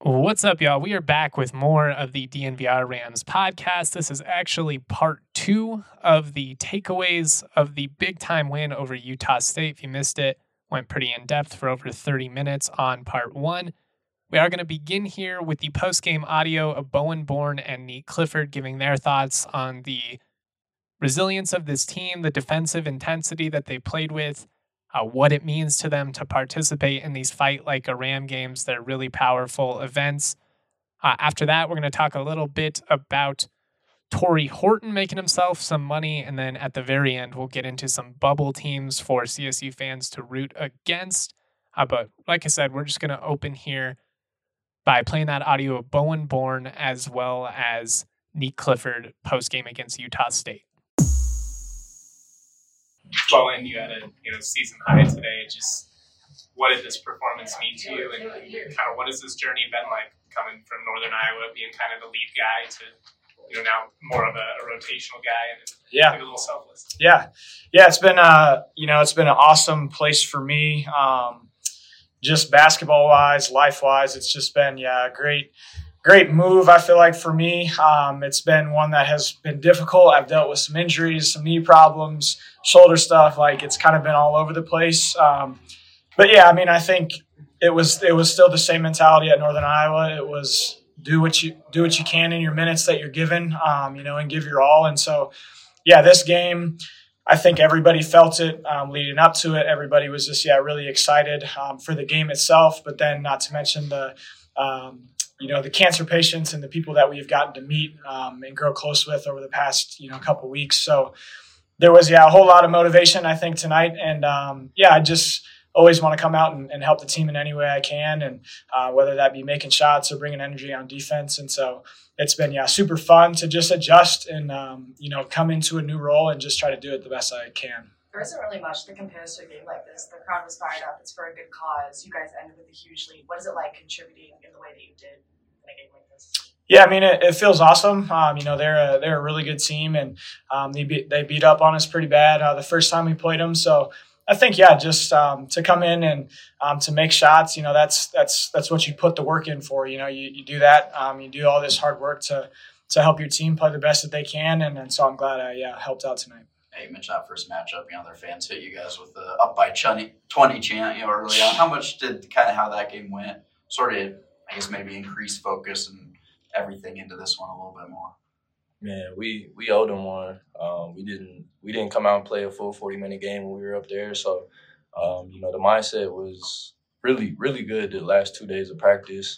What's up, y'all? We are back with more of the DNVR Rams podcast. This is actually part 2 of the takeaways of the big time win over Utah State. If you missed it, went pretty in depth for over 30 minutes on part 1. We are going to begin here with the post game audio of Bowen Bourne and Nate Clifford giving their thoughts on the resilience of this team, the defensive intensity that they played with, what it means to them to participate in these fight like a Ram games. They're really powerful events. After that, we're going to talk a little bit about Torrey Horton making himself some money. And then at the very end, we'll get into some bubble teams for CSU fans to root against. But like I said, we're just going to open here by playing that audio of Bowen Bourne as well as Nate Clifford post game against Utah State. Bowen, you had a season high today. Just what did this performance mean to you, and kind of what has this journey been like coming from Northern Iowa, being kind of the lead guy to now more of a rotational guy and like a little selfless. Yeah, it's been it's been an awesome place for me. Just basketball wise, life wise, it's just been a great move, I feel like, for me. It's been one that has been difficult. I've dealt with some injuries, some knee problems, shoulder stuff. Like, it's kind of been all over the place. But yeah, I mean, I think it was still the same mentality at Northern Iowa. It was do what you can in your minutes that you're given, and give your all. And so, this game, I think everybody felt it leading up to it. Everybody was just really excited for the game itself. But then, not to mention the cancer patients and the people that we've gotten to meet and grow close with over the past, couple weeks. So there was, a whole lot of motivation, I think, tonight. And, I just always want to come out and help the team in any way I can. And whether that be making shots or bringing energy on defense. And so it's been, super fun to just adjust and, come into a new role and just try to do it the best I can. There isn't really much that compares to a game like this. The crowd was fired up. It's for a good cause. You guys ended with a huge lead. What is it like contributing in the way that you did in a game like this? Yeah, I mean, it feels awesome. They're a really good team, and they beat up on us pretty bad the first time we played them. So I think, just to come in and to make shots, that's what you put the work in for. You do that. You do all this hard work to help your team play the best that they can, and so I'm glad I helped out tonight. You mentioned that first matchup, their fans hit you guys with the up by 20 chant, early on. How much did kind of how that game went sort of, I guess, maybe increase focus and everything into this one a little bit more? Man, we owed them one. We didn't come out and play a full 40-minute game when we were up there. So, the mindset was really, really good the last 2 days of practice.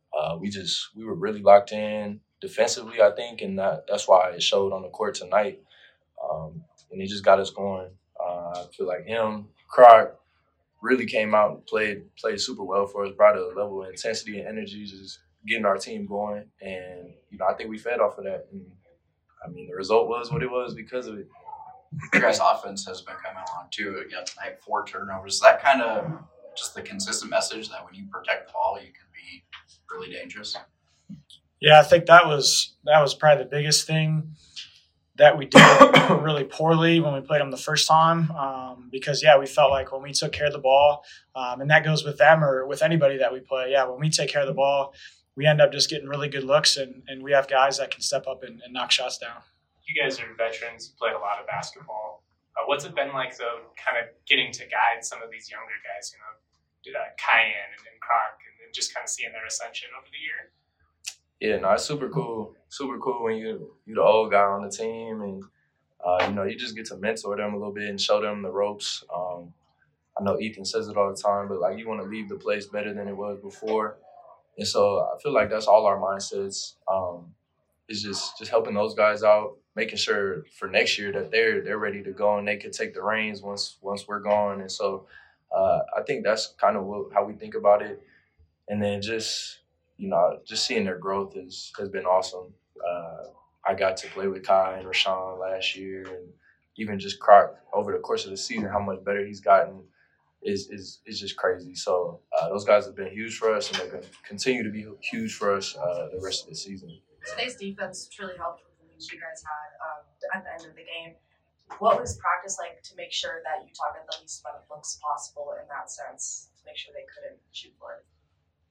We were really locked in defensively, I think, and that's why it showed on the court tonight. And he just got us going. I feel like him, Croc, really came out and played super well for us, brought a level of intensity and energy, just getting our team going. And, I think we fed off of that. And, I mean, the result was what it was because of it. Your guys' offense has been coming along, too. Tonight, 4 turnovers. Is that kind of just the consistent message that when you protect the ball, you can be really dangerous? Yeah, I think that was probably the biggest thing that we did really poorly when we played them the first time because, we felt like when we took care of the ball, and that goes with them or with anybody that we play, when we take care of the ball, we end up just getting really good looks, and we have guys that can step up and knock shots down. You guys are veterans. You played a lot of basketball. What's it been like, though, kind of getting to guide some of these younger guys, Cayenne and Croc, and just kind of seeing their ascension over the year? Yeah, no, it's super cool. Super cool when you're the old guy on the team and, you just get to mentor them a little bit and show them the ropes. I know Ethan says it all the time, but, you want to leave the place better than it was before. And so I feel like that's all our mindsets. Is just helping those guys out, making sure for next year that they're ready to go and they can take the reins once we're gone. And so I think that's kind of how we think about it. And then just seeing their growth has been awesome. I got to play with Kai and Rashawn last year, and even just Croc over the course of the season, how much better he's gotten is just crazy. So those guys have been huge for us, and they're going to continue to be huge for us the rest of the season. Today's defense truly helped with the leads you guys had at the end of the game. What was practice like to make sure that Utah got the least amount of looks possible in that sense, to make sure they couldn't shoot for it?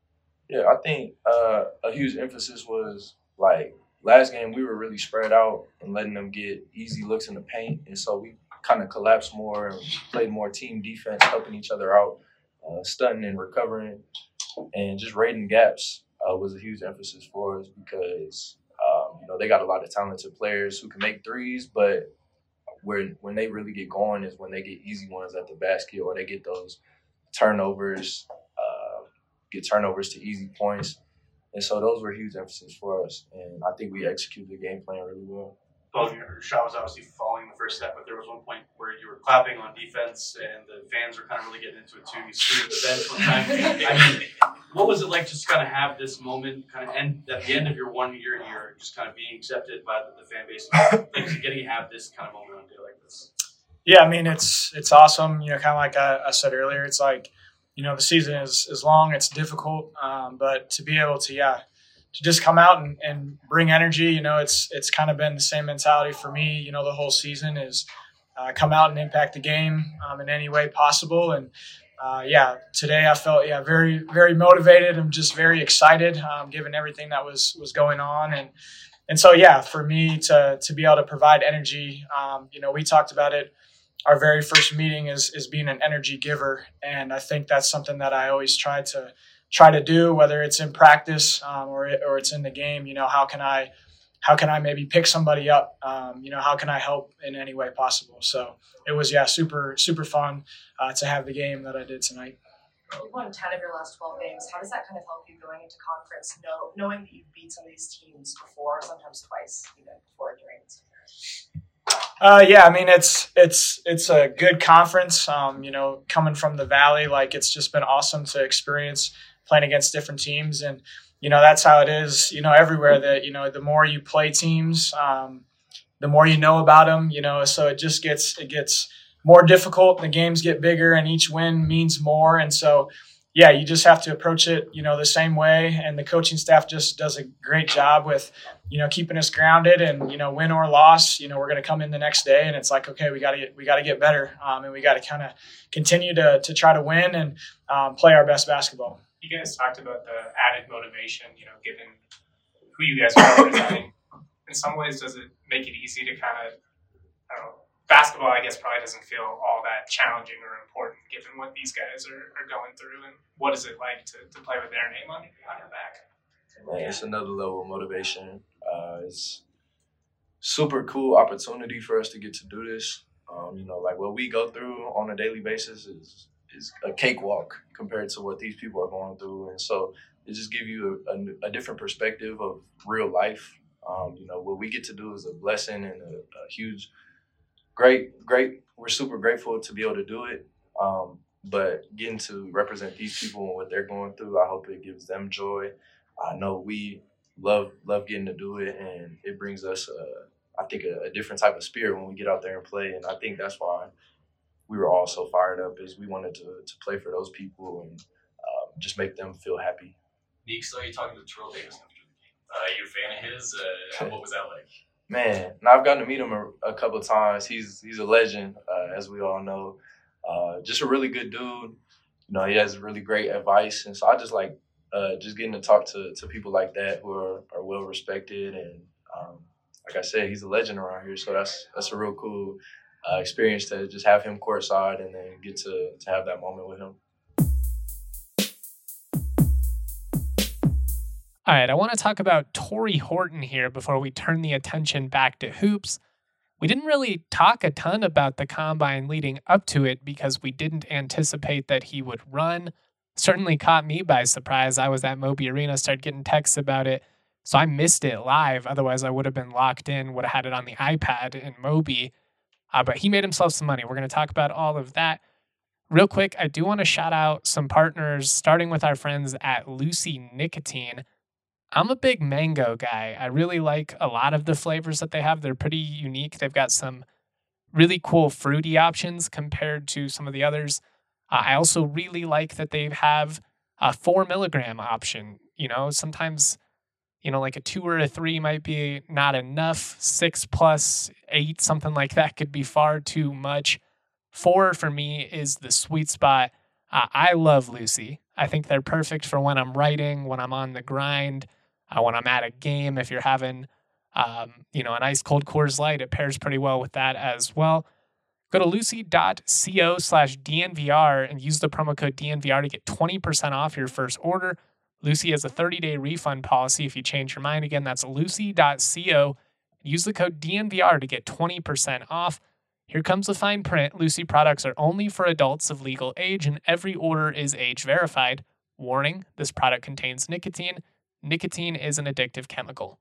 Yeah, I think a huge emphasis was like last game we were really spread out and letting them get easy looks in the paint, and so we kind of collapsed more and played more team defense, helping each other out, stunting and recovering, and just raiding gaps was a huge emphasis for us because they got a lot of talented players who can make threes, but when they really get going is when they get easy ones at the basket or they get those turnovers, get turnovers to easy points. And so those were huge emphasis for us. And I think we executed the game plan really well. Well, your shot was obviously falling the first step, but there was one point where you were clapping on defense and the fans were kind of really getting into it too. You screamed at the bench one time. I mean, what was it like just kind of have this moment kind of end at the end of your 1 year here, just kind of being accepted by the fan base, like getting to have this kind of moment on a day like this? Yeah, I mean, it's awesome. Kind of like I said earlier, it's like, the season is long, it's difficult, but to be able to just come out and bring energy, it's kind of been the same mentality for me, the whole season is come out and impact the game in any way possible. And today I felt, very, very motivated. I'm just very excited given everything that was going on. And so, for me to be able to provide energy, we talked about it. Our very first meeting is being an energy giver. And I think that's something that I always try to do, whether it's in practice or it's in the game. How can I maybe pick somebody up? How can I help in any way possible? So it was, super, super fun to have the game that I did tonight. You've won 10 of your last 12 games. How does that kind of help you going into conference, knowing that you've beat some of these teams before, sometimes twice, even before and during this year? I mean, it's a good conference, coming from the Valley, like it's just been awesome to experience playing against different teams. And, that's how it is, everywhere that, the more you play teams, the more you know about them, so it gets more difficult. The games get bigger and each win means more. And so, you just have to approach it, the same way. And the coaching staff just does a great job with, keeping us grounded and, win or loss, we're going to come in the next day and it's like, okay, we got to get better. And we got to kind of continue to try to win and play our best basketball. You guys talked about the added motivation, given who you guys are representing. In some ways, does it make it easy to kind of, I don't know, basketball, I guess, probably doesn't feel all that challenging or important given what these guys are going through. And what is it like to play with their name on your back? Man, it's another level of motivation. It's super cool opportunity for us to get to do this. Like what we go through on a daily basis is a cakewalk compared to what these people are going through. And so it just gives you a different perspective of real life. What we get to do is a blessing and a huge, great. We're super grateful to be able to do it. But getting to represent these people and what they're going through, I hope it gives them joy. I know we love getting to do it, and it brings us, I think, a different type of spirit when we get out there and play. And I think that's why we were all so fired up, is we wanted to play for those people and just make them feel happy. Nick, so you're talking to Terrell Davis after the game. You're a fan of his? What was that like? Man, now I've gotten to meet him a couple of times. He's a legend, as we all know. Just a really good dude. He has really great advice. And so I just like just getting to talk to people like that who are well respected. And like I said, he's a legend around here. So that's a real cool experience to just have him courtside and then get to have that moment with him. All right, I want to talk about Tory Horton here before we turn the attention back to hoops. We didn't really talk a ton about the combine leading up to it because we didn't anticipate that he would run. Certainly caught me by surprise. I was at Moby Arena, started getting texts about it, so I missed it live. Otherwise, I would have been locked in, would have had it on the iPad in Moby. But he made himself some money. We're going to talk about all of that. Real quick, I do want to shout out some partners, starting with our friends at Lucy Nicotine. I'm a big mango guy. I really like a lot of the flavors that they have. They're pretty unique. They've got some really cool fruity options compared to some of the others. I also really like that they have a 4 milligram option. Sometimes, like a 2 or a 3 might be not enough. 6 plus 8, something like that could be far too much. 4 for me is the sweet spot. I love Lucy. I think they're perfect for when I'm writing, when I'm on the grind, when I'm at a game. If you're having, an ice cold Coors Light, it pairs pretty well with that as well. Go to lucy.co/DNVR and use the promo code DNVR to get 20% off your first order. Lucy has a 30-day refund policy if you change your mind. Again, that's lucy.co. Use the code DNVR to get 20% off. Here comes the fine print. Lucy products are only for adults of legal age, and every order is age verified. Warning, this product contains nicotine. Nicotine is an addictive chemical.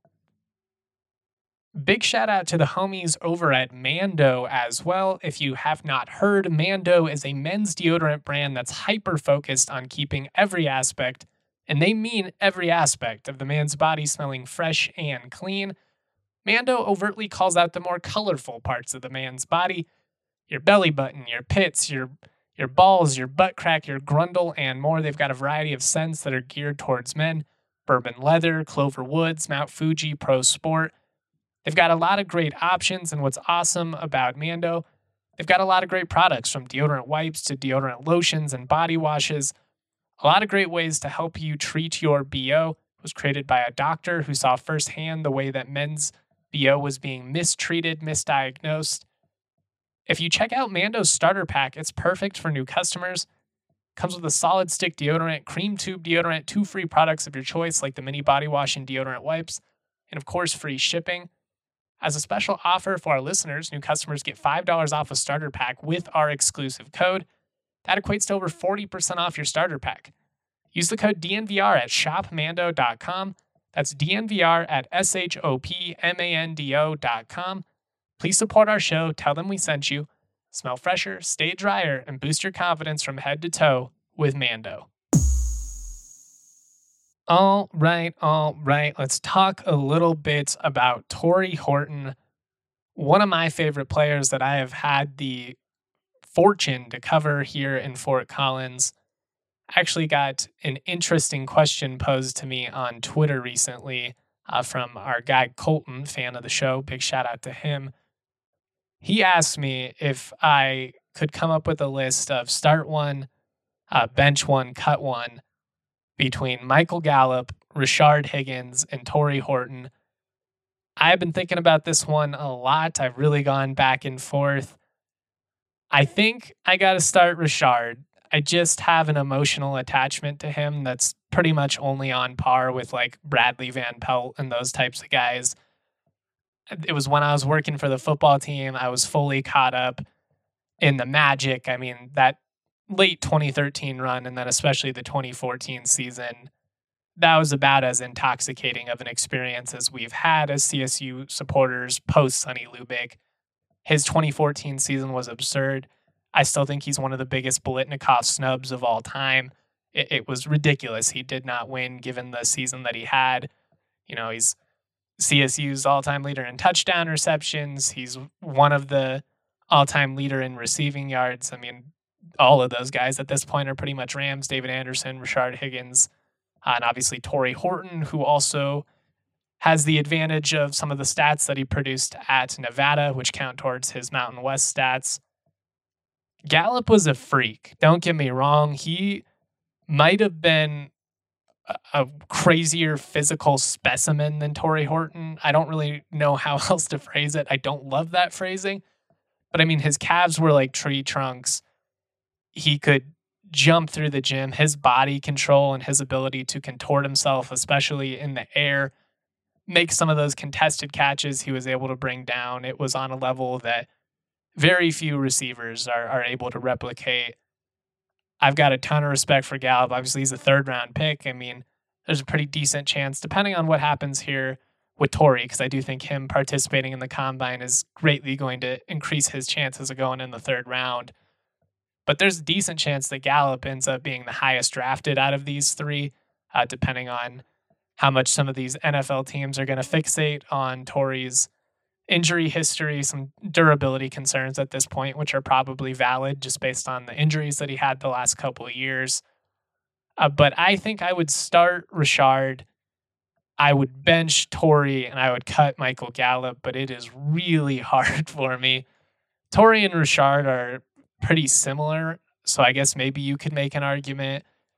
Big shout out to the homies over at Mando as well. If you have not heard, Mando is a men's deodorant brand that's hyper-focused on keeping every aspect, and they mean every aspect, of the man's body smelling fresh and clean. Mando overtly calls out the more colorful parts of the man's body: your belly button, your pits, your balls, your butt crack, your grundle, and more. They've got a variety of scents that are geared towards men: bourbon leather, clover woods, Mount Fuji, Pro Sport. They've got a lot of great options, and what's awesome about Mando, they've got a lot of great products, from deodorant wipes to deodorant lotions and body washes. A lot of great ways to help you treat your BO. It was created by a doctor who saw firsthand the way that men's BO was being mistreated, misdiagnosed. If you check out Mando's starter pack, it's perfect for new customers. Comes with a solid stick deodorant, cream tube deodorant, 2 free products of your choice like the mini body wash and deodorant wipes, and of course free shipping. As a special offer for our listeners, new customers get $5 off a starter pack with our exclusive code. That equates to over 40% off your starter pack. Use the code DNVR at shopmando.com. That's DNVR at shopmando.com. Please support our show, tell them we sent you. Smell fresher, stay drier, and boost your confidence from head to toe with Mando. All right. Let's talk a little bit about Tory Horton, one of my favorite players that I have had the fortune to cover here in Fort Collins. Actually got an interesting question posed to me on Twitter recently from our guy Colton, fan of the show. Big shout out to him. He asked me if I could come up with a list of start one, bench one, cut one between Michael Gallup, Rashard Higgins, and Tory Horton. I've been thinking about this one a lot. I've really gone back and forth. I think I got to start Rashard. I just have an emotional attachment to him that's pretty much only on par with like Bradley Van Pelt and those types of guys. It was when I was working for the football team. I was fully caught up in the magic. I mean, that late 2013 run, and then especially the 2014 season, that was about as intoxicating of an experience as we've had as CSU supporters post Sonny Lubick. His 2014 season was absurd. I still think he's one of the biggest Biletnikoff snubs of all time. It was ridiculous. He did not win given the season that he had. You know, he's CSU's all-time leader in touchdown receptions. He's one of the all-time leader in receiving yards. I mean, all of those guys at this point are pretty much Rams: David Anderson, Rashard Higgins, and obviously Tory Horton, who also has the advantage of some of the stats that he produced at Nevada, which count towards his Mountain West stats. Gallup was a freak. Don't get me wrong. He might have been a crazier physical specimen than Tory Horton. I don't really know how else to phrase it. I don't love that phrasing. But I mean, his calves were like tree trunks. He could jump through the gym. His body control and his ability to contort himself, especially in the air, make some of those contested catches he was able to bring down. It was on a level that very few receivers are able to replicate. I've got a ton of respect for Gallup. Obviously, he's a 3rd-round pick. I mean, there's a pretty decent chance, depending on what happens here with Tory, because I do think him participating in the combine is greatly going to increase his chances of going in the 3rd round. But there's a decent chance that Gallup ends up being the highest drafted out of these 3, depending on how much some of these NFL teams are going to fixate on Tory's injury history, some durability concerns at this point, which are probably valid just based on the injuries that he had the last couple of years. But I think I would start Rashard, I would bench Tory, and I would cut Michael Gallup, but it is really hard for me. Tory and Rashard are pretty similar, so I guess maybe you could make an argument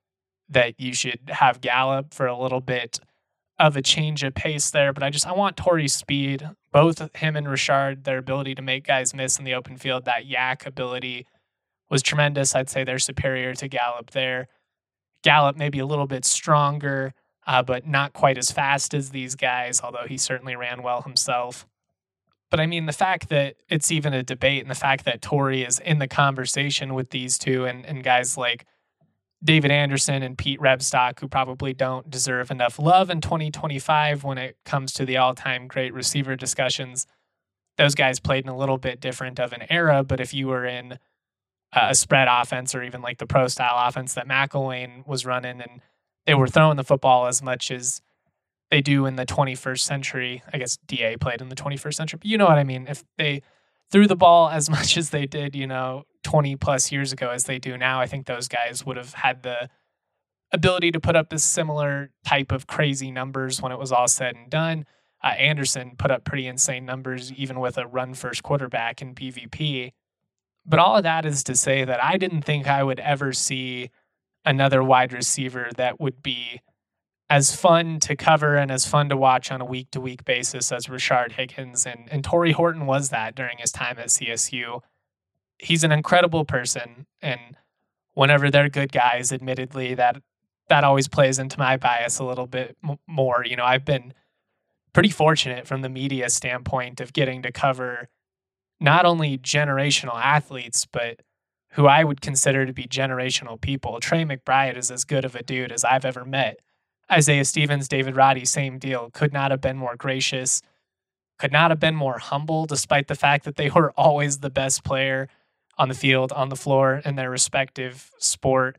that you should have Gallup for a little bit of a change of pace there. But I want Torrey's speed, both him and Richard, their ability to make guys miss in the open field, that yak ability was tremendous. I'd say they're superior to Gallup there. Gallup maybe a little bit stronger, but not quite as fast as these guys, although he certainly ran well himself. But I mean, the fact that it's even a debate and the fact that Torrey is in the conversation with these two and guys like David Anderson and Pete Rebstock, who probably don't deserve enough love in 2025 when it comes to the all-time great receiver discussions. Those guys played in a little bit different of an era, but if you were in a spread offense or even like the pro-style offense that McElwain was running and they were throwing the football as much as they do in the 21st century, I guess DA played in the 21st century, but you know what I mean? If they threw the ball as much as they did, 20 plus years ago as they do now, I think those guys would have had the ability to put up this similar type of crazy numbers when it was all said and done. Anderson put up pretty insane numbers, even with a run-first quarterback in PvP. But all of that is to say that I didn't think I would ever see another wide receiver that would be as fun to cover and as fun to watch on a week-to-week basis as Rashard Higgins. And Torrey Horton was that during his time at CSU. He's an incredible person, and whenever they're good guys, admittedly, that always plays into my bias a little bit more. I've been pretty fortunate from the media standpoint of getting to cover not only generational athletes, but who I would consider to be generational people. Trey McBride is as good of a dude as I've ever met. Isaiah Stevens, David Roddy, same deal. Could not have been more gracious, could not have been more humble, despite the fact that they were always the best player on the field, on the floor, in their respective sport.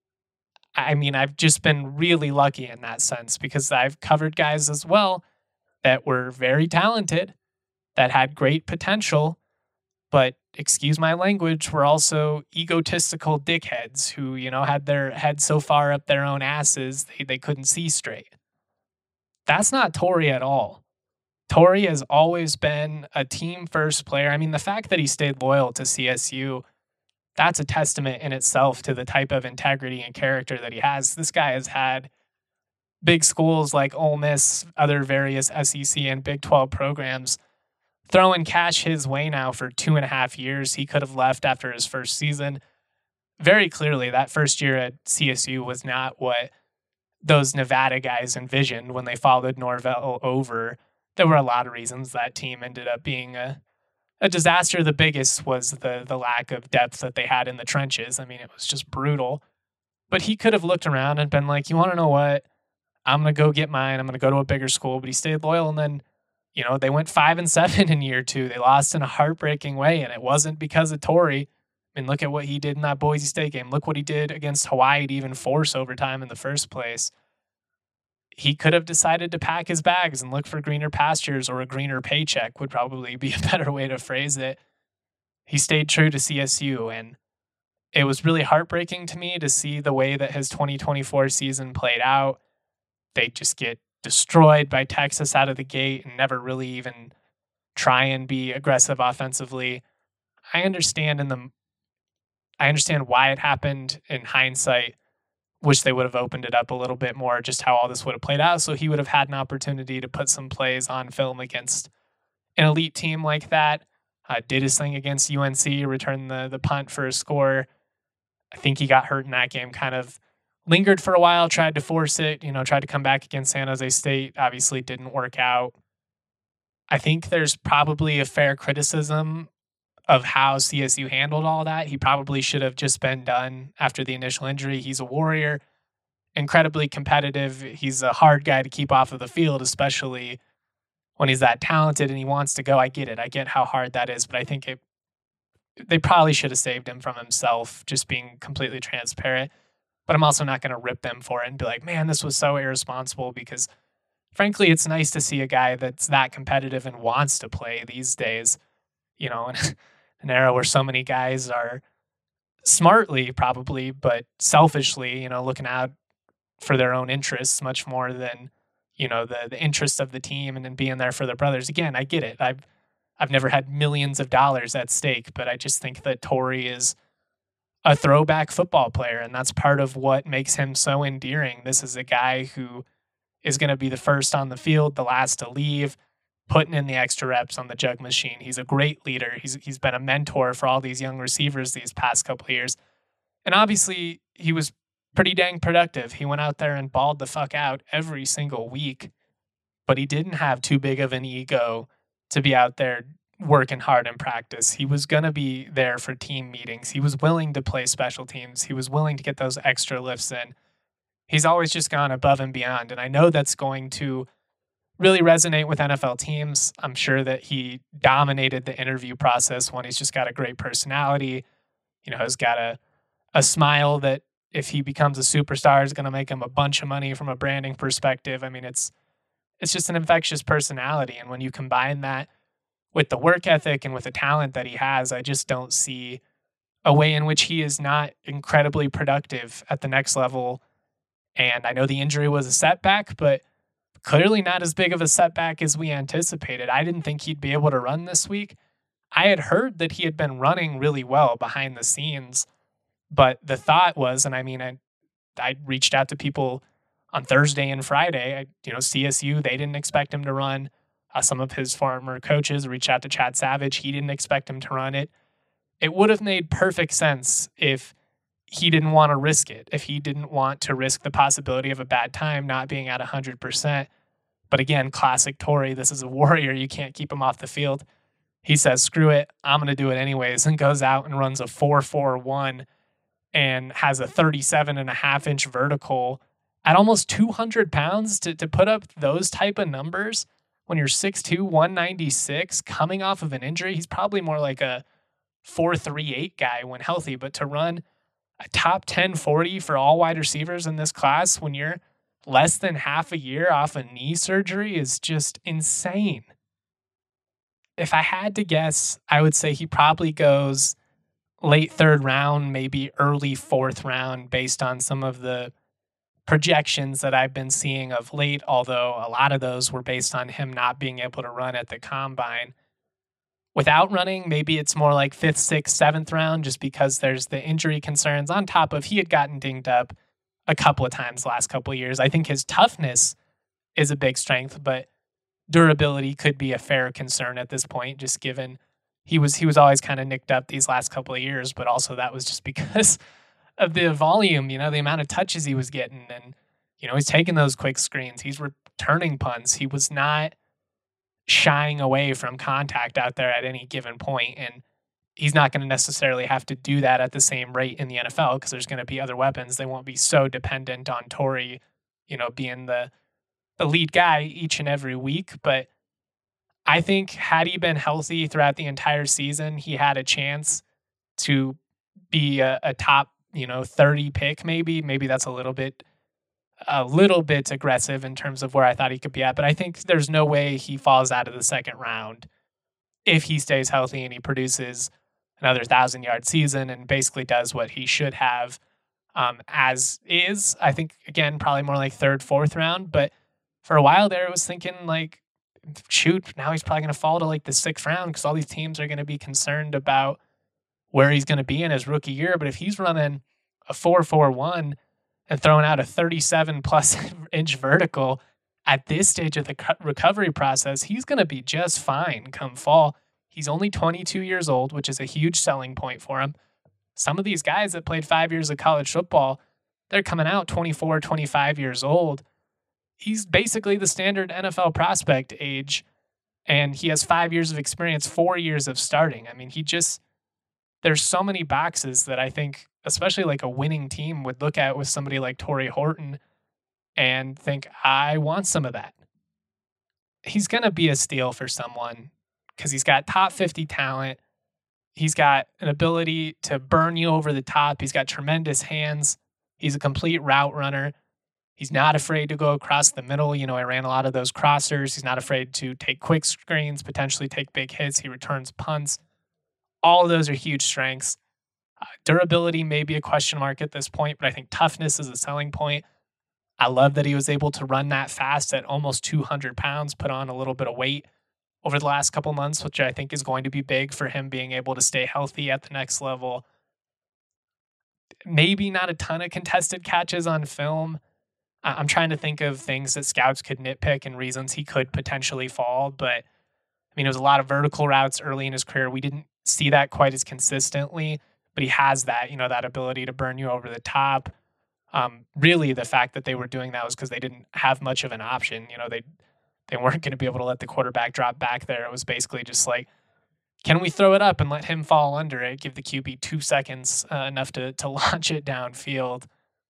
I mean, I've just been really lucky in that sense because I've covered guys as well that were very talented, that had great potential, but, excuse my language, were also egotistical dickheads who, had their head so far up their own asses they couldn't see straight. That's not Torrey at all. Torrey has always been a team-first player. I mean, the fact that he stayed loyal to CSU, that's a testament in itself to the type of integrity and character that he has. This guy has had big schools like Ole Miss, other various SEC and Big 12 programs throwing cash his way now for 2.5 years. He could have left after his first season. Very clearly, that first year at CSU was not what those Nevada guys envisioned when they followed Norvell over. There were a lot of reasons that team ended up being a disaster. The biggest was the lack of depth that they had in the trenches. I mean, it was just brutal. But he could have looked around and been like, you want to know what? I'm going to go get mine. I'm going to go to a bigger school. But he stayed loyal. And then, they went 5-7 in year 2. They lost in a heartbreaking way. And it wasn't because of Torrey. I mean, look at what he did in that Boise State game. Look what he did against Hawaii to even force overtime in the first place. He could have decided to pack his bags and look for greener pastures, or a greener paycheck would probably be a better way to phrase it. He stayed true to CSU, and it was really heartbreaking to me to see the way that his 2024 season played out. They just get destroyed by Texas out of the gate and never really even try and be aggressive offensively. I understand why it happened in hindsight. Wish they would have opened it up a little bit more, just how all this would have played out. So he would have had an opportunity to put some plays on film against an elite team like that. Did his thing against UNC, returned the punt for a score. I think he got hurt in that game, kind of lingered for a while, tried to force it, tried to come back against San Jose State. Obviously didn't work out. I think there's probably a fair criticism of how CSU handled all that. He probably should have just been done after the initial injury. He's a warrior, incredibly competitive. He's a hard guy to keep off of the field, especially when he's that talented and he wants to go. I get it. I get how hard that is, but I think they probably should have saved him from himself, just being completely transparent. But I'm also not going to rip them for it and be like, man, this was so irresponsible, because frankly, it's nice to see a guy that's that competitive and wants to play these days, in an era where so many guys are smartly probably, but selfishly, looking out for their own interests much more than, the interests of the team and then being there for their brothers. Again, I get it. I've never had millions of dollars at stake, but I just think that Torrey is a throwback football player, and that's part of what makes him so endearing. This is a guy who is going to be the first on the field, the last to leave, putting in the extra reps on the jug machine. He's a great leader. He's been a mentor for all these young receivers these past couple of years. And obviously, he was pretty dang productive. He went out there and balled the fuck out every single week, but he didn't have too big of an ego to be out there working hard in practice. He was going to be there for team meetings. He was willing to play special teams. He was willing to get those extra lifts in. He's always just gone above and beyond. And I know that's going to really resonate with NFL teams. I'm sure that he dominated the interview process when he's just got a great personality, has got a smile that if he becomes a superstar is going to make him a bunch of money from a branding perspective. I mean, it's just an infectious personality. And when you combine that with the work ethic and with the talent that he has, I just don't see a way in which he is not incredibly productive at the next level. And I know the injury was a setback, but clearly not as big of a setback as we anticipated. I didn't think he'd be able to run this week. I had heard that he had been running really well behind the scenes, but the thought was, and I mean, I reached out to people on Thursday and Friday. CSU, they didn't expect him to run. Some of his former coaches reached out to Chad Savage. He didn't expect him to run it. It would have made perfect sense if he didn't want to risk it, if he didn't want to risk the possibility of a bad time not being at 100%. But again, classic Torrey, this is a warrior. You can't keep him off the field. He says, screw it, I'm going to do it anyways, and goes out and runs a 4.41 and has a 37.5-inch vertical at almost 200 pounds to put up those type of numbers when you're 6'2", 196, coming off of an injury. He's probably more like a 4.38 guy when healthy, but to run a top 10 40 for all wide receivers in this class when you're less than half a year off a knee surgery is just insane. If I had to guess, I would say he probably goes late third round, maybe early fourth round, based on some of the projections that I've been seeing of late, although a lot of those were based on him not being able to run at the combine. Without running, maybe it's more like 5th, 6th, 7th round, just because there's the injury concerns on top of he had gotten dinged up a couple of times the last couple of years. I think his toughness is a big strength, but durability could be a fair concern at this point, just given he was always kind of nicked up these last couple of years, but also that was just because of the volume, the amount of touches he was getting. And, he's taking those quick screens. He's returning punts. He was not shying away from contact out there at any given point. And he's not going to necessarily have to do that at the same rate in the NFL because there's going to be other weapons. They won't be so dependent on Torrey, being the lead guy each and every week. But I think had he been healthy throughout the entire season, he had a chance to be a top 30 pick, maybe that's a little bit aggressive in terms of where I thought he could be at, but I think there's no way he falls out of the second round if he stays healthy and he produces another 1,000-yard season and basically does what he should have as is. I think, again, probably more like third, fourth round, but for a while there, I was thinking like, shoot, now he's probably going to fall to like the 6th round because all these teams are going to be concerned about where he's going to be in his rookie year. But if he's running a 4.41 and throwing out a 37-plus inch vertical at this stage of the recovery process, he's going to be just fine come fall. He's only 22 years old, which is a huge selling point for him. Some of these guys that played 5 years of college football, they're coming out 24, 25 years old. He's basically the standard NFL prospect age, and he has 5 years of experience, 4 years of starting. I mean, there's so many boxes that I think, especially like a winning team, would look at with somebody like Torrey Horton and think, I want some of that. He's going to be a steal for someone because he's got top 50 talent. He's got an ability to burn you over the top. He's got tremendous hands. He's a complete route runner. He's not afraid to go across the middle. I ran a lot of those crossers. He's not afraid to take quick screens, potentially take big hits. He returns punts. All of those are huge strengths. Durability may be a question mark at this point, but I think toughness is a selling point. I love that he was able to run that fast at almost 200 pounds, put on a little bit of weight over the last couple months, which I think is going to be big for him being able to stay healthy at the next level. maybe not a ton of contested catches on film. I'm trying to think of things that scouts could nitpick and reasons he could potentially fall. But I mean, it was a lot of vertical routes early in his career. We didn't see that quite as consistently, but he has that, that ability to burn you over the top. Really, the fact that they were doing that was because they didn't have much of an option. They weren't going to be able to let the quarterback drop back there. It was basically just like, can we throw it up and let him fall under it, give the QB 2 seconds, enough to launch it downfield.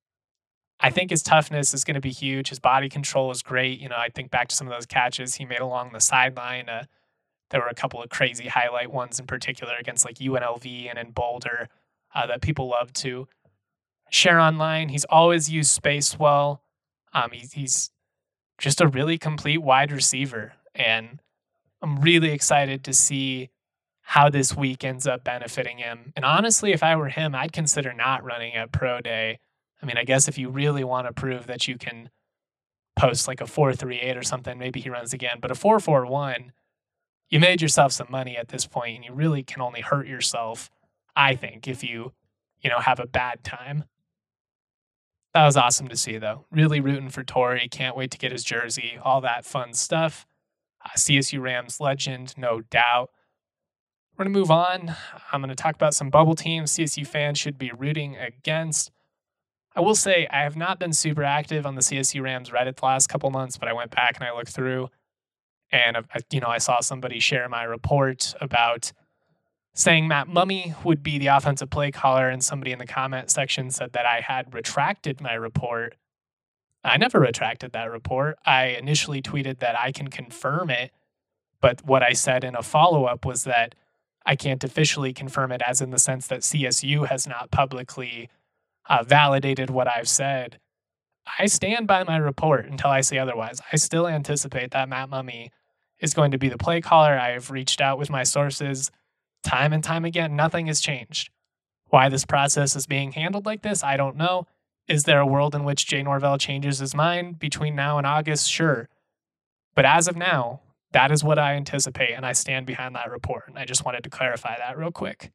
I think his toughness is going to be huge. His body control is great. I think back to some of those catches he made along the sideline. There were a couple of crazy highlight ones in particular against like UNLV and in Boulder that people love to share online. He's always used space well. He's just a really complete wide receiver. And I'm really excited to see how this week ends up benefiting him. And honestly, if I were him, I'd consider not running at Pro Day. I mean, I guess if you really want to prove that you can post like a 4.38 or something, maybe he runs again. But a 4.41, you made yourself some money at this point, and you really can only hurt yourself, I think, if you have a bad time. That was awesome to see, though. Really rooting for Torrey. Can't wait to get his jersey, all that fun stuff. CSU Rams legend, no doubt. We're going to move on. I'm going to talk about some bubble teams CSU fans should be rooting against. I will say I have not been super active on the CSU Rams Reddit the last couple months, but I went back and I looked through, and I saw somebody share my report about saying Matt Mumme would be the offensive play caller, and somebody in the comment section said that I had retracted my report. I never retracted that report. I initially tweeted that I can confirm it, but what I said in a follow-up was that I can't officially confirm it, as in the sense that CSU has not publicly validated what I've said. I stand by my report until I say otherwise. I still anticipate that Matt Mumme is going to be the play caller. I have reached out with my sources time and time again. Nothing has changed. Why this process is being handled like this, I don't know. Is there a world in which Jay Norvell changes his mind between now and August? Sure. But as of now, that is what I anticipate, and I stand behind that report. And I just wanted to clarify that real quick.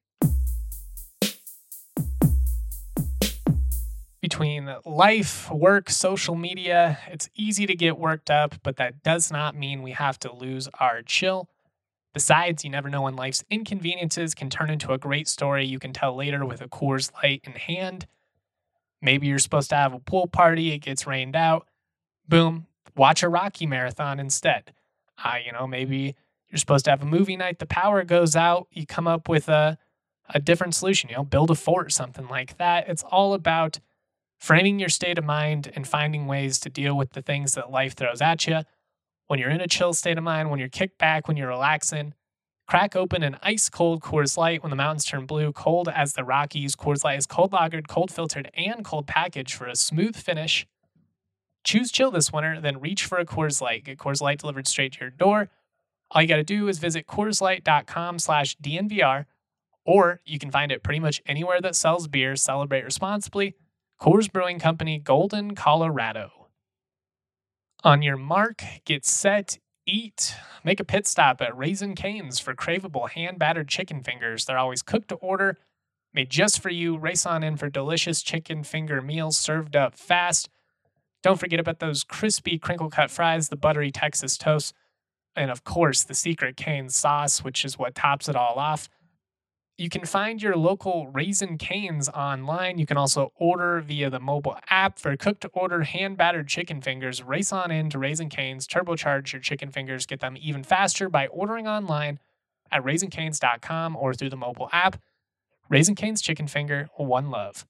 Between life, work, social media, it's easy to get worked up, but that does not mean we have to lose our chill. Besides, you never know when life's inconveniences can turn into a great story you can tell later with a Coors Light in hand. Maybe you're supposed to have a pool party, it gets rained out. Boom, watch a Rocky marathon instead. Maybe you're supposed to have a movie night, the power goes out, you come up with a different solution, build a fort, something like that. It's all about framing your state of mind and finding ways to deal with the things that life throws at you. When you're in a chill state of mind, when you're kicked back, when you're relaxing, crack open an ice-cold Coors Light when the mountains turn blue, cold as the Rockies. Coors Light is cold lagered, cold filtered, and cold packaged for a smooth finish. Choose chill this winter, then reach for a Coors Light. Get Coors Light delivered straight to your door. All you got to do is visit CoorsLight.com/DNVR, or you can find it pretty much anywhere that sells beer. Celebrate responsibly. Coors Brewing Company, Golden, Colorado. On your mark, get set, eat. Make a pit stop at Raising Cane's for craveable hand-battered chicken fingers. They're always cooked to order, made just for you. Race on in for delicious chicken finger meals served up fast. Don't forget about those crispy crinkle-cut fries, the buttery Texas toast, and of course, the secret Cane's sauce, which is what tops it all off. You can find your local Raising Cane's online. You can also order via the mobile app for cooked-to-order hand-battered chicken fingers. Race on in to Raising Cane's. Turbocharge your chicken fingers. Get them even faster by ordering online at RaisingCanes.com or through the mobile app. Raising Cane's Chicken Finger, one love.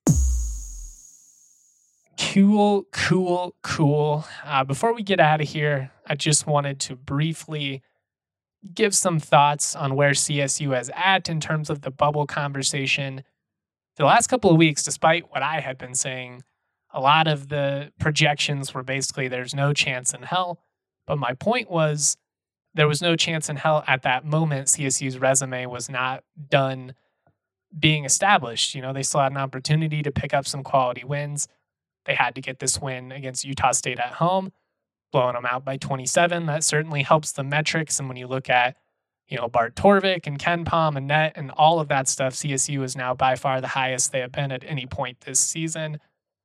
Cool. Before we get out of here, I just wanted to briefly give some thoughts on where CSU is at in terms of the bubble conversation. The last couple of weeks, despite what I had been saying, a lot of the projections were basically there's no chance in hell. But my point was there was no chance in hell at that moment. CSU's resume was not done being established. They still had an opportunity to pick up some quality wins. They had to get this win against Utah State at home, blowing them out by 27. That certainly helps the metrics. And when you look at Bart Torvik and Ken Palm and net and all of that stuff, CSU is now by far the highest they have been at any point this season.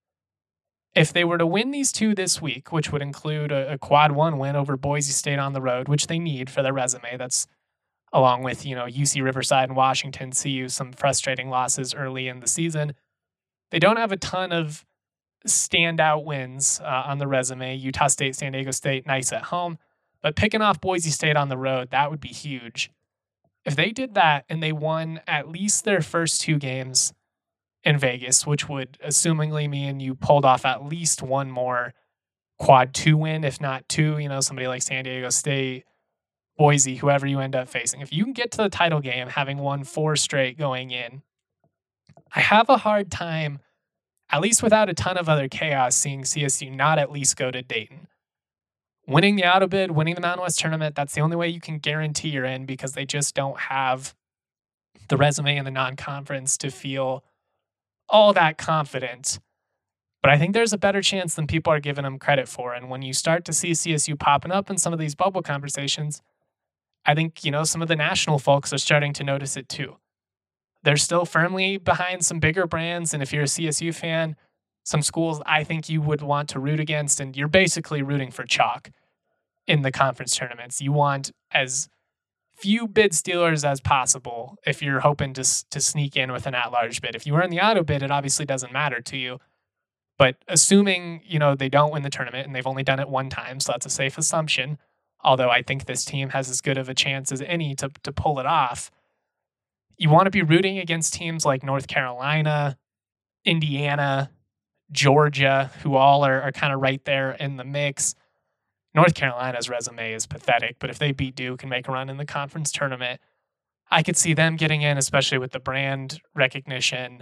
If they were to win these two this week, which would include a quad one win over Boise State on the road, which they need for their resume, that's along with, UC Riverside and Washington, CU, some frustrating losses early in the season. They don't have a ton of standout wins on the resume. Utah State, San Diego State, nice at home. But picking off Boise State on the road, that would be huge. If they did that and they won at least their first two games in Vegas, which would assumingly mean you pulled off at least one more quad two win, if not two, somebody like San Diego State, Boise, whoever you end up facing. If you can get to the title game having won 4 straight going in, I have a hard time, at least without a ton of other chaos, seeing CSU not at least go to Dayton. Winning the auto bid, winning the Mountain West tournament, that's the only way you can guarantee you're in, because they just don't have the resume in the non-conference to feel all that confident. But I think there's a better chance than people are giving them credit for. And when you start to see CSU popping up in some of these bubble conversations, I think, some of the national folks are starting to notice it too. They're still firmly behind some bigger brands. And if you're a CSU fan, some schools I think you would want to root against, and you're basically rooting for chalk in the conference tournaments. You want as few bid stealers as possible if you're hoping to sneak in with an at-large bid. If you were in the auto bid, it obviously doesn't matter to you. But assuming, they don't win the tournament, and they've only done it one time, so that's a safe assumption, although I think this team has as good of a chance as any to pull it off, you want to be rooting against teams like North Carolina, Indiana, Georgia, who all are kind of right there in the mix. North Carolina's resume is pathetic, but if they beat Duke and make a run in the conference tournament, I could see them getting in, especially with the brand recognition.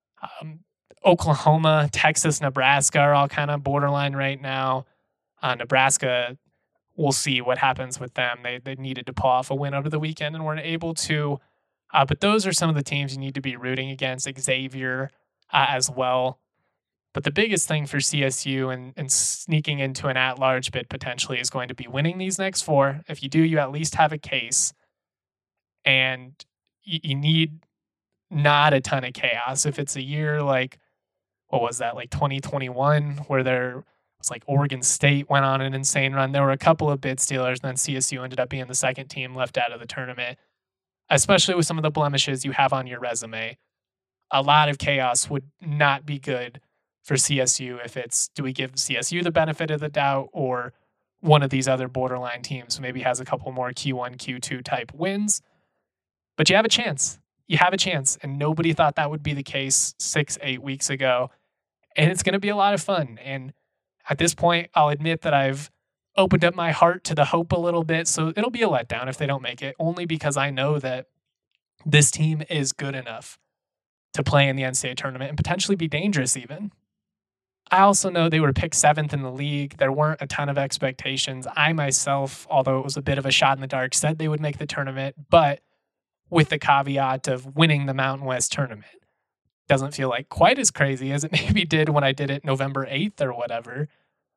Oklahoma, Texas, Nebraska are all kind of borderline right now. Nebraska, we'll see what happens with them. They needed to pull off a win over the weekend and weren't able to. But those are some of the teams you need to be rooting against. Xavier as well. But the biggest thing for CSU and sneaking into an at-large bid potentially is going to be winning these next 4. If you do, you at least have a case. And you need not a ton of chaos. If it's a year like, what was that, like 2021, where there was like Oregon State went on an insane run. There were a couple of bid stealers, and then CSU ended up being the second team left out of the tournament. Especially with some of the blemishes you have on your resume, a lot of chaos would not be good for CSU if it's, do we give CSU the benefit of the doubt, or one of these other borderline teams maybe has a couple more Q1, Q2 type wins. But you have a chance. You have a chance. And nobody thought that would be the case 6-8 weeks ago. And it's going to be a lot of fun. And at this point, I'll admit that I've opened up my heart to the hope a little bit. So it'll be a letdown if they don't make it, only because I know that this team is good enough to play in the NCAA tournament and potentially be dangerous even. I also know they were picked 7th in the league. There weren't a ton of expectations. I myself, although it was a bit of a shot in the dark, said they would make the tournament, but with the caveat of winning the Mountain West tournament. Doesn't feel like quite as crazy as it maybe did when I did it November 8th or whatever.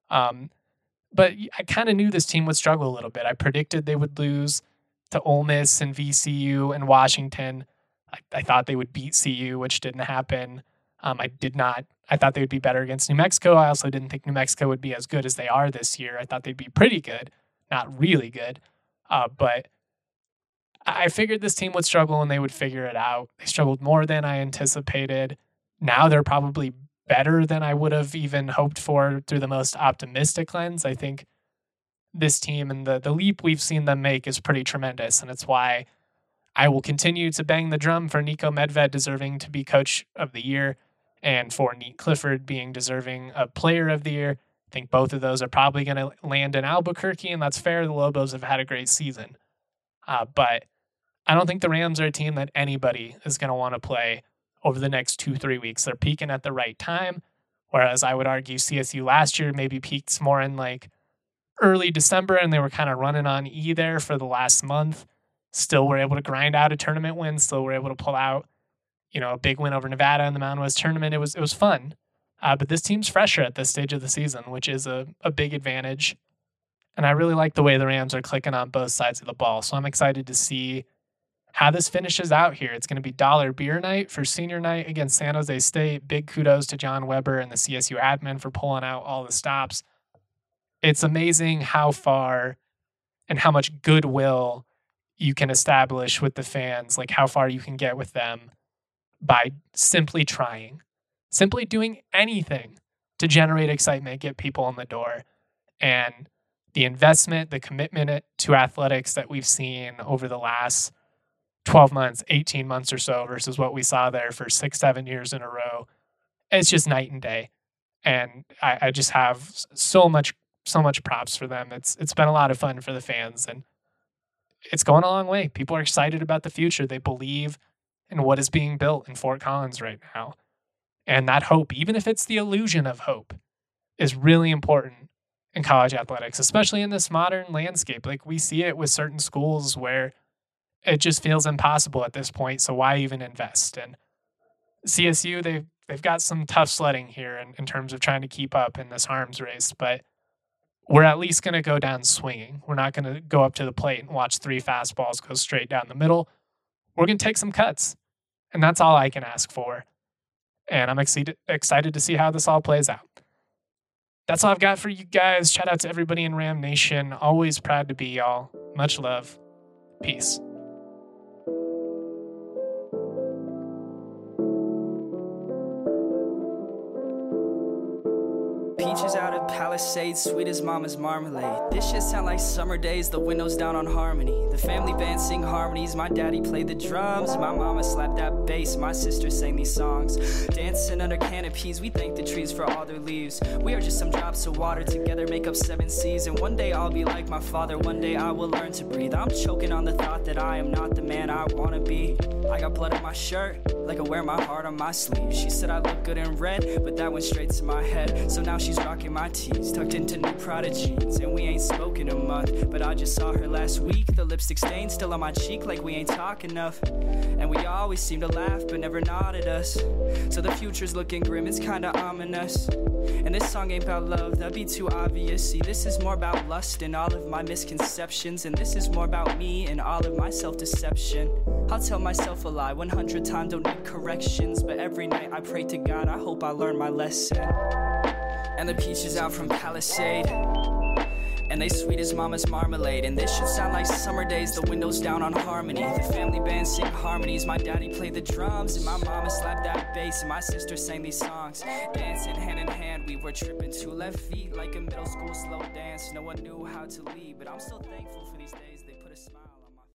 But I kind of knew this team would struggle a little bit. I predicted they would lose to Ole Miss and VCU and Washington. I thought they would beat CU, which didn't happen. I did not. I thought they would be better against New Mexico. I also didn't think New Mexico would be as good as they are this year. I thought they'd be pretty good, not really good. But I figured this team would struggle and they would figure it out. They struggled more than I anticipated. Now they're probably better than I would have even hoped for through the most optimistic lens. I think this team and the leap we've seen them make is pretty tremendous. And it's why I will continue to bang the drum for Nico Medved deserving to be coach of the year and for Nate Clifford being deserving of player of the year. I think both of those are probably going to land in Albuquerque, and that's fair. The Lobos have had a great season. But I don't think the Rams are a team that anybody is going to want to play over the next 2-3 weeks. They're peaking at the right time, whereas I would argue CSU last year maybe peaked more in like early December, and they were kind of running on E there for the last month. Still were able to grind out a tournament win, still were able to pull out, a big win over Nevada in the Mountain West tournament. It was fun. But this team's fresher at this stage of the season, which is a big advantage. And I really like the way the Rams are clicking on both sides of the ball. So I'm excited to see how this finishes out here. It's going to be dollar beer night for senior night against San Jose State. Big kudos to John Weber and the CSU admin for pulling out all the stops. It's amazing how far and how much goodwill you can establish with the fans, like how far you can get with them by simply trying, simply doing anything to generate excitement, get people in the door. And the investment, the commitment to athletics that we've seen over the last 12 months, 18 months or so versus what we saw there for 6-7 years in a row, it's just night and day. And I just have so much props for them. It's been a lot of fun for the fans, and it's going a long way. People are excited about the future. They believe in what is being built in Fort Collins right now. And that hope, even if it's the illusion of hope, is really important in college athletics, especially in this modern landscape. Like, we see it with certain schools where it just feels impossible at this point. So why even invest? And CSU, they've got some tough sledding here in terms of trying to keep up in this arms race, but we're at least going to go down swinging. We're not going to go up to the plate and watch 3 fastballs go straight down the middle. We're going to take some cuts, and that's all I can ask for. And I'm excited to see how this all plays out. That's all I've got for you guys. Shout out to everybody in Ram Nation. Always proud to be y'all. Much love. Peace. Peaches out of Palisades, sweet as mama's marmalade. This shit sound like summer days, the windows down on Harmony. The family band sing harmonies, my daddy played the drums. My mama slapped that bass, my sister sang these songs. Dancing under canopies, we thank the trees for all their leaves. We are just some drops of water, together make up 7 seas. And one day I'll be like my father, one day I will learn to breathe. I'm choking on the thought that I am not the man I wanna be. I got blood on my shirt, like I wear my heart on my sleeve. She said I look good in red, but that went straight to my head. So now she's rocking my tees, tucked into new Prada jeans. And we ain't spoken a month, but I just saw her last week. The lipstick stain still on my cheek, like we ain't talk enough. And we always seem to laugh, but never nod at us. So the future's looking grim, it's kinda ominous. And this song ain't about love, that'd be too obvious. See, this is more about lust and all of my misconceptions. And this is more about me and all of my self-deception. I'll tell myself a lie 100 times, don't need corrections. But every night I pray to God, I hope I learn my lesson. And the peaches out from Palisade, and they sweet as mama's marmalade. And this should sound like summer days, the windows down on Harmony. The family band sing harmonies, my daddy played the drums. And my mama slapped that bass, and my sister sang these songs. Dancing hand in hand, we were tripping 2 left feet like a middle school slow dance. No one knew how to lead, but I'm so thankful for these days.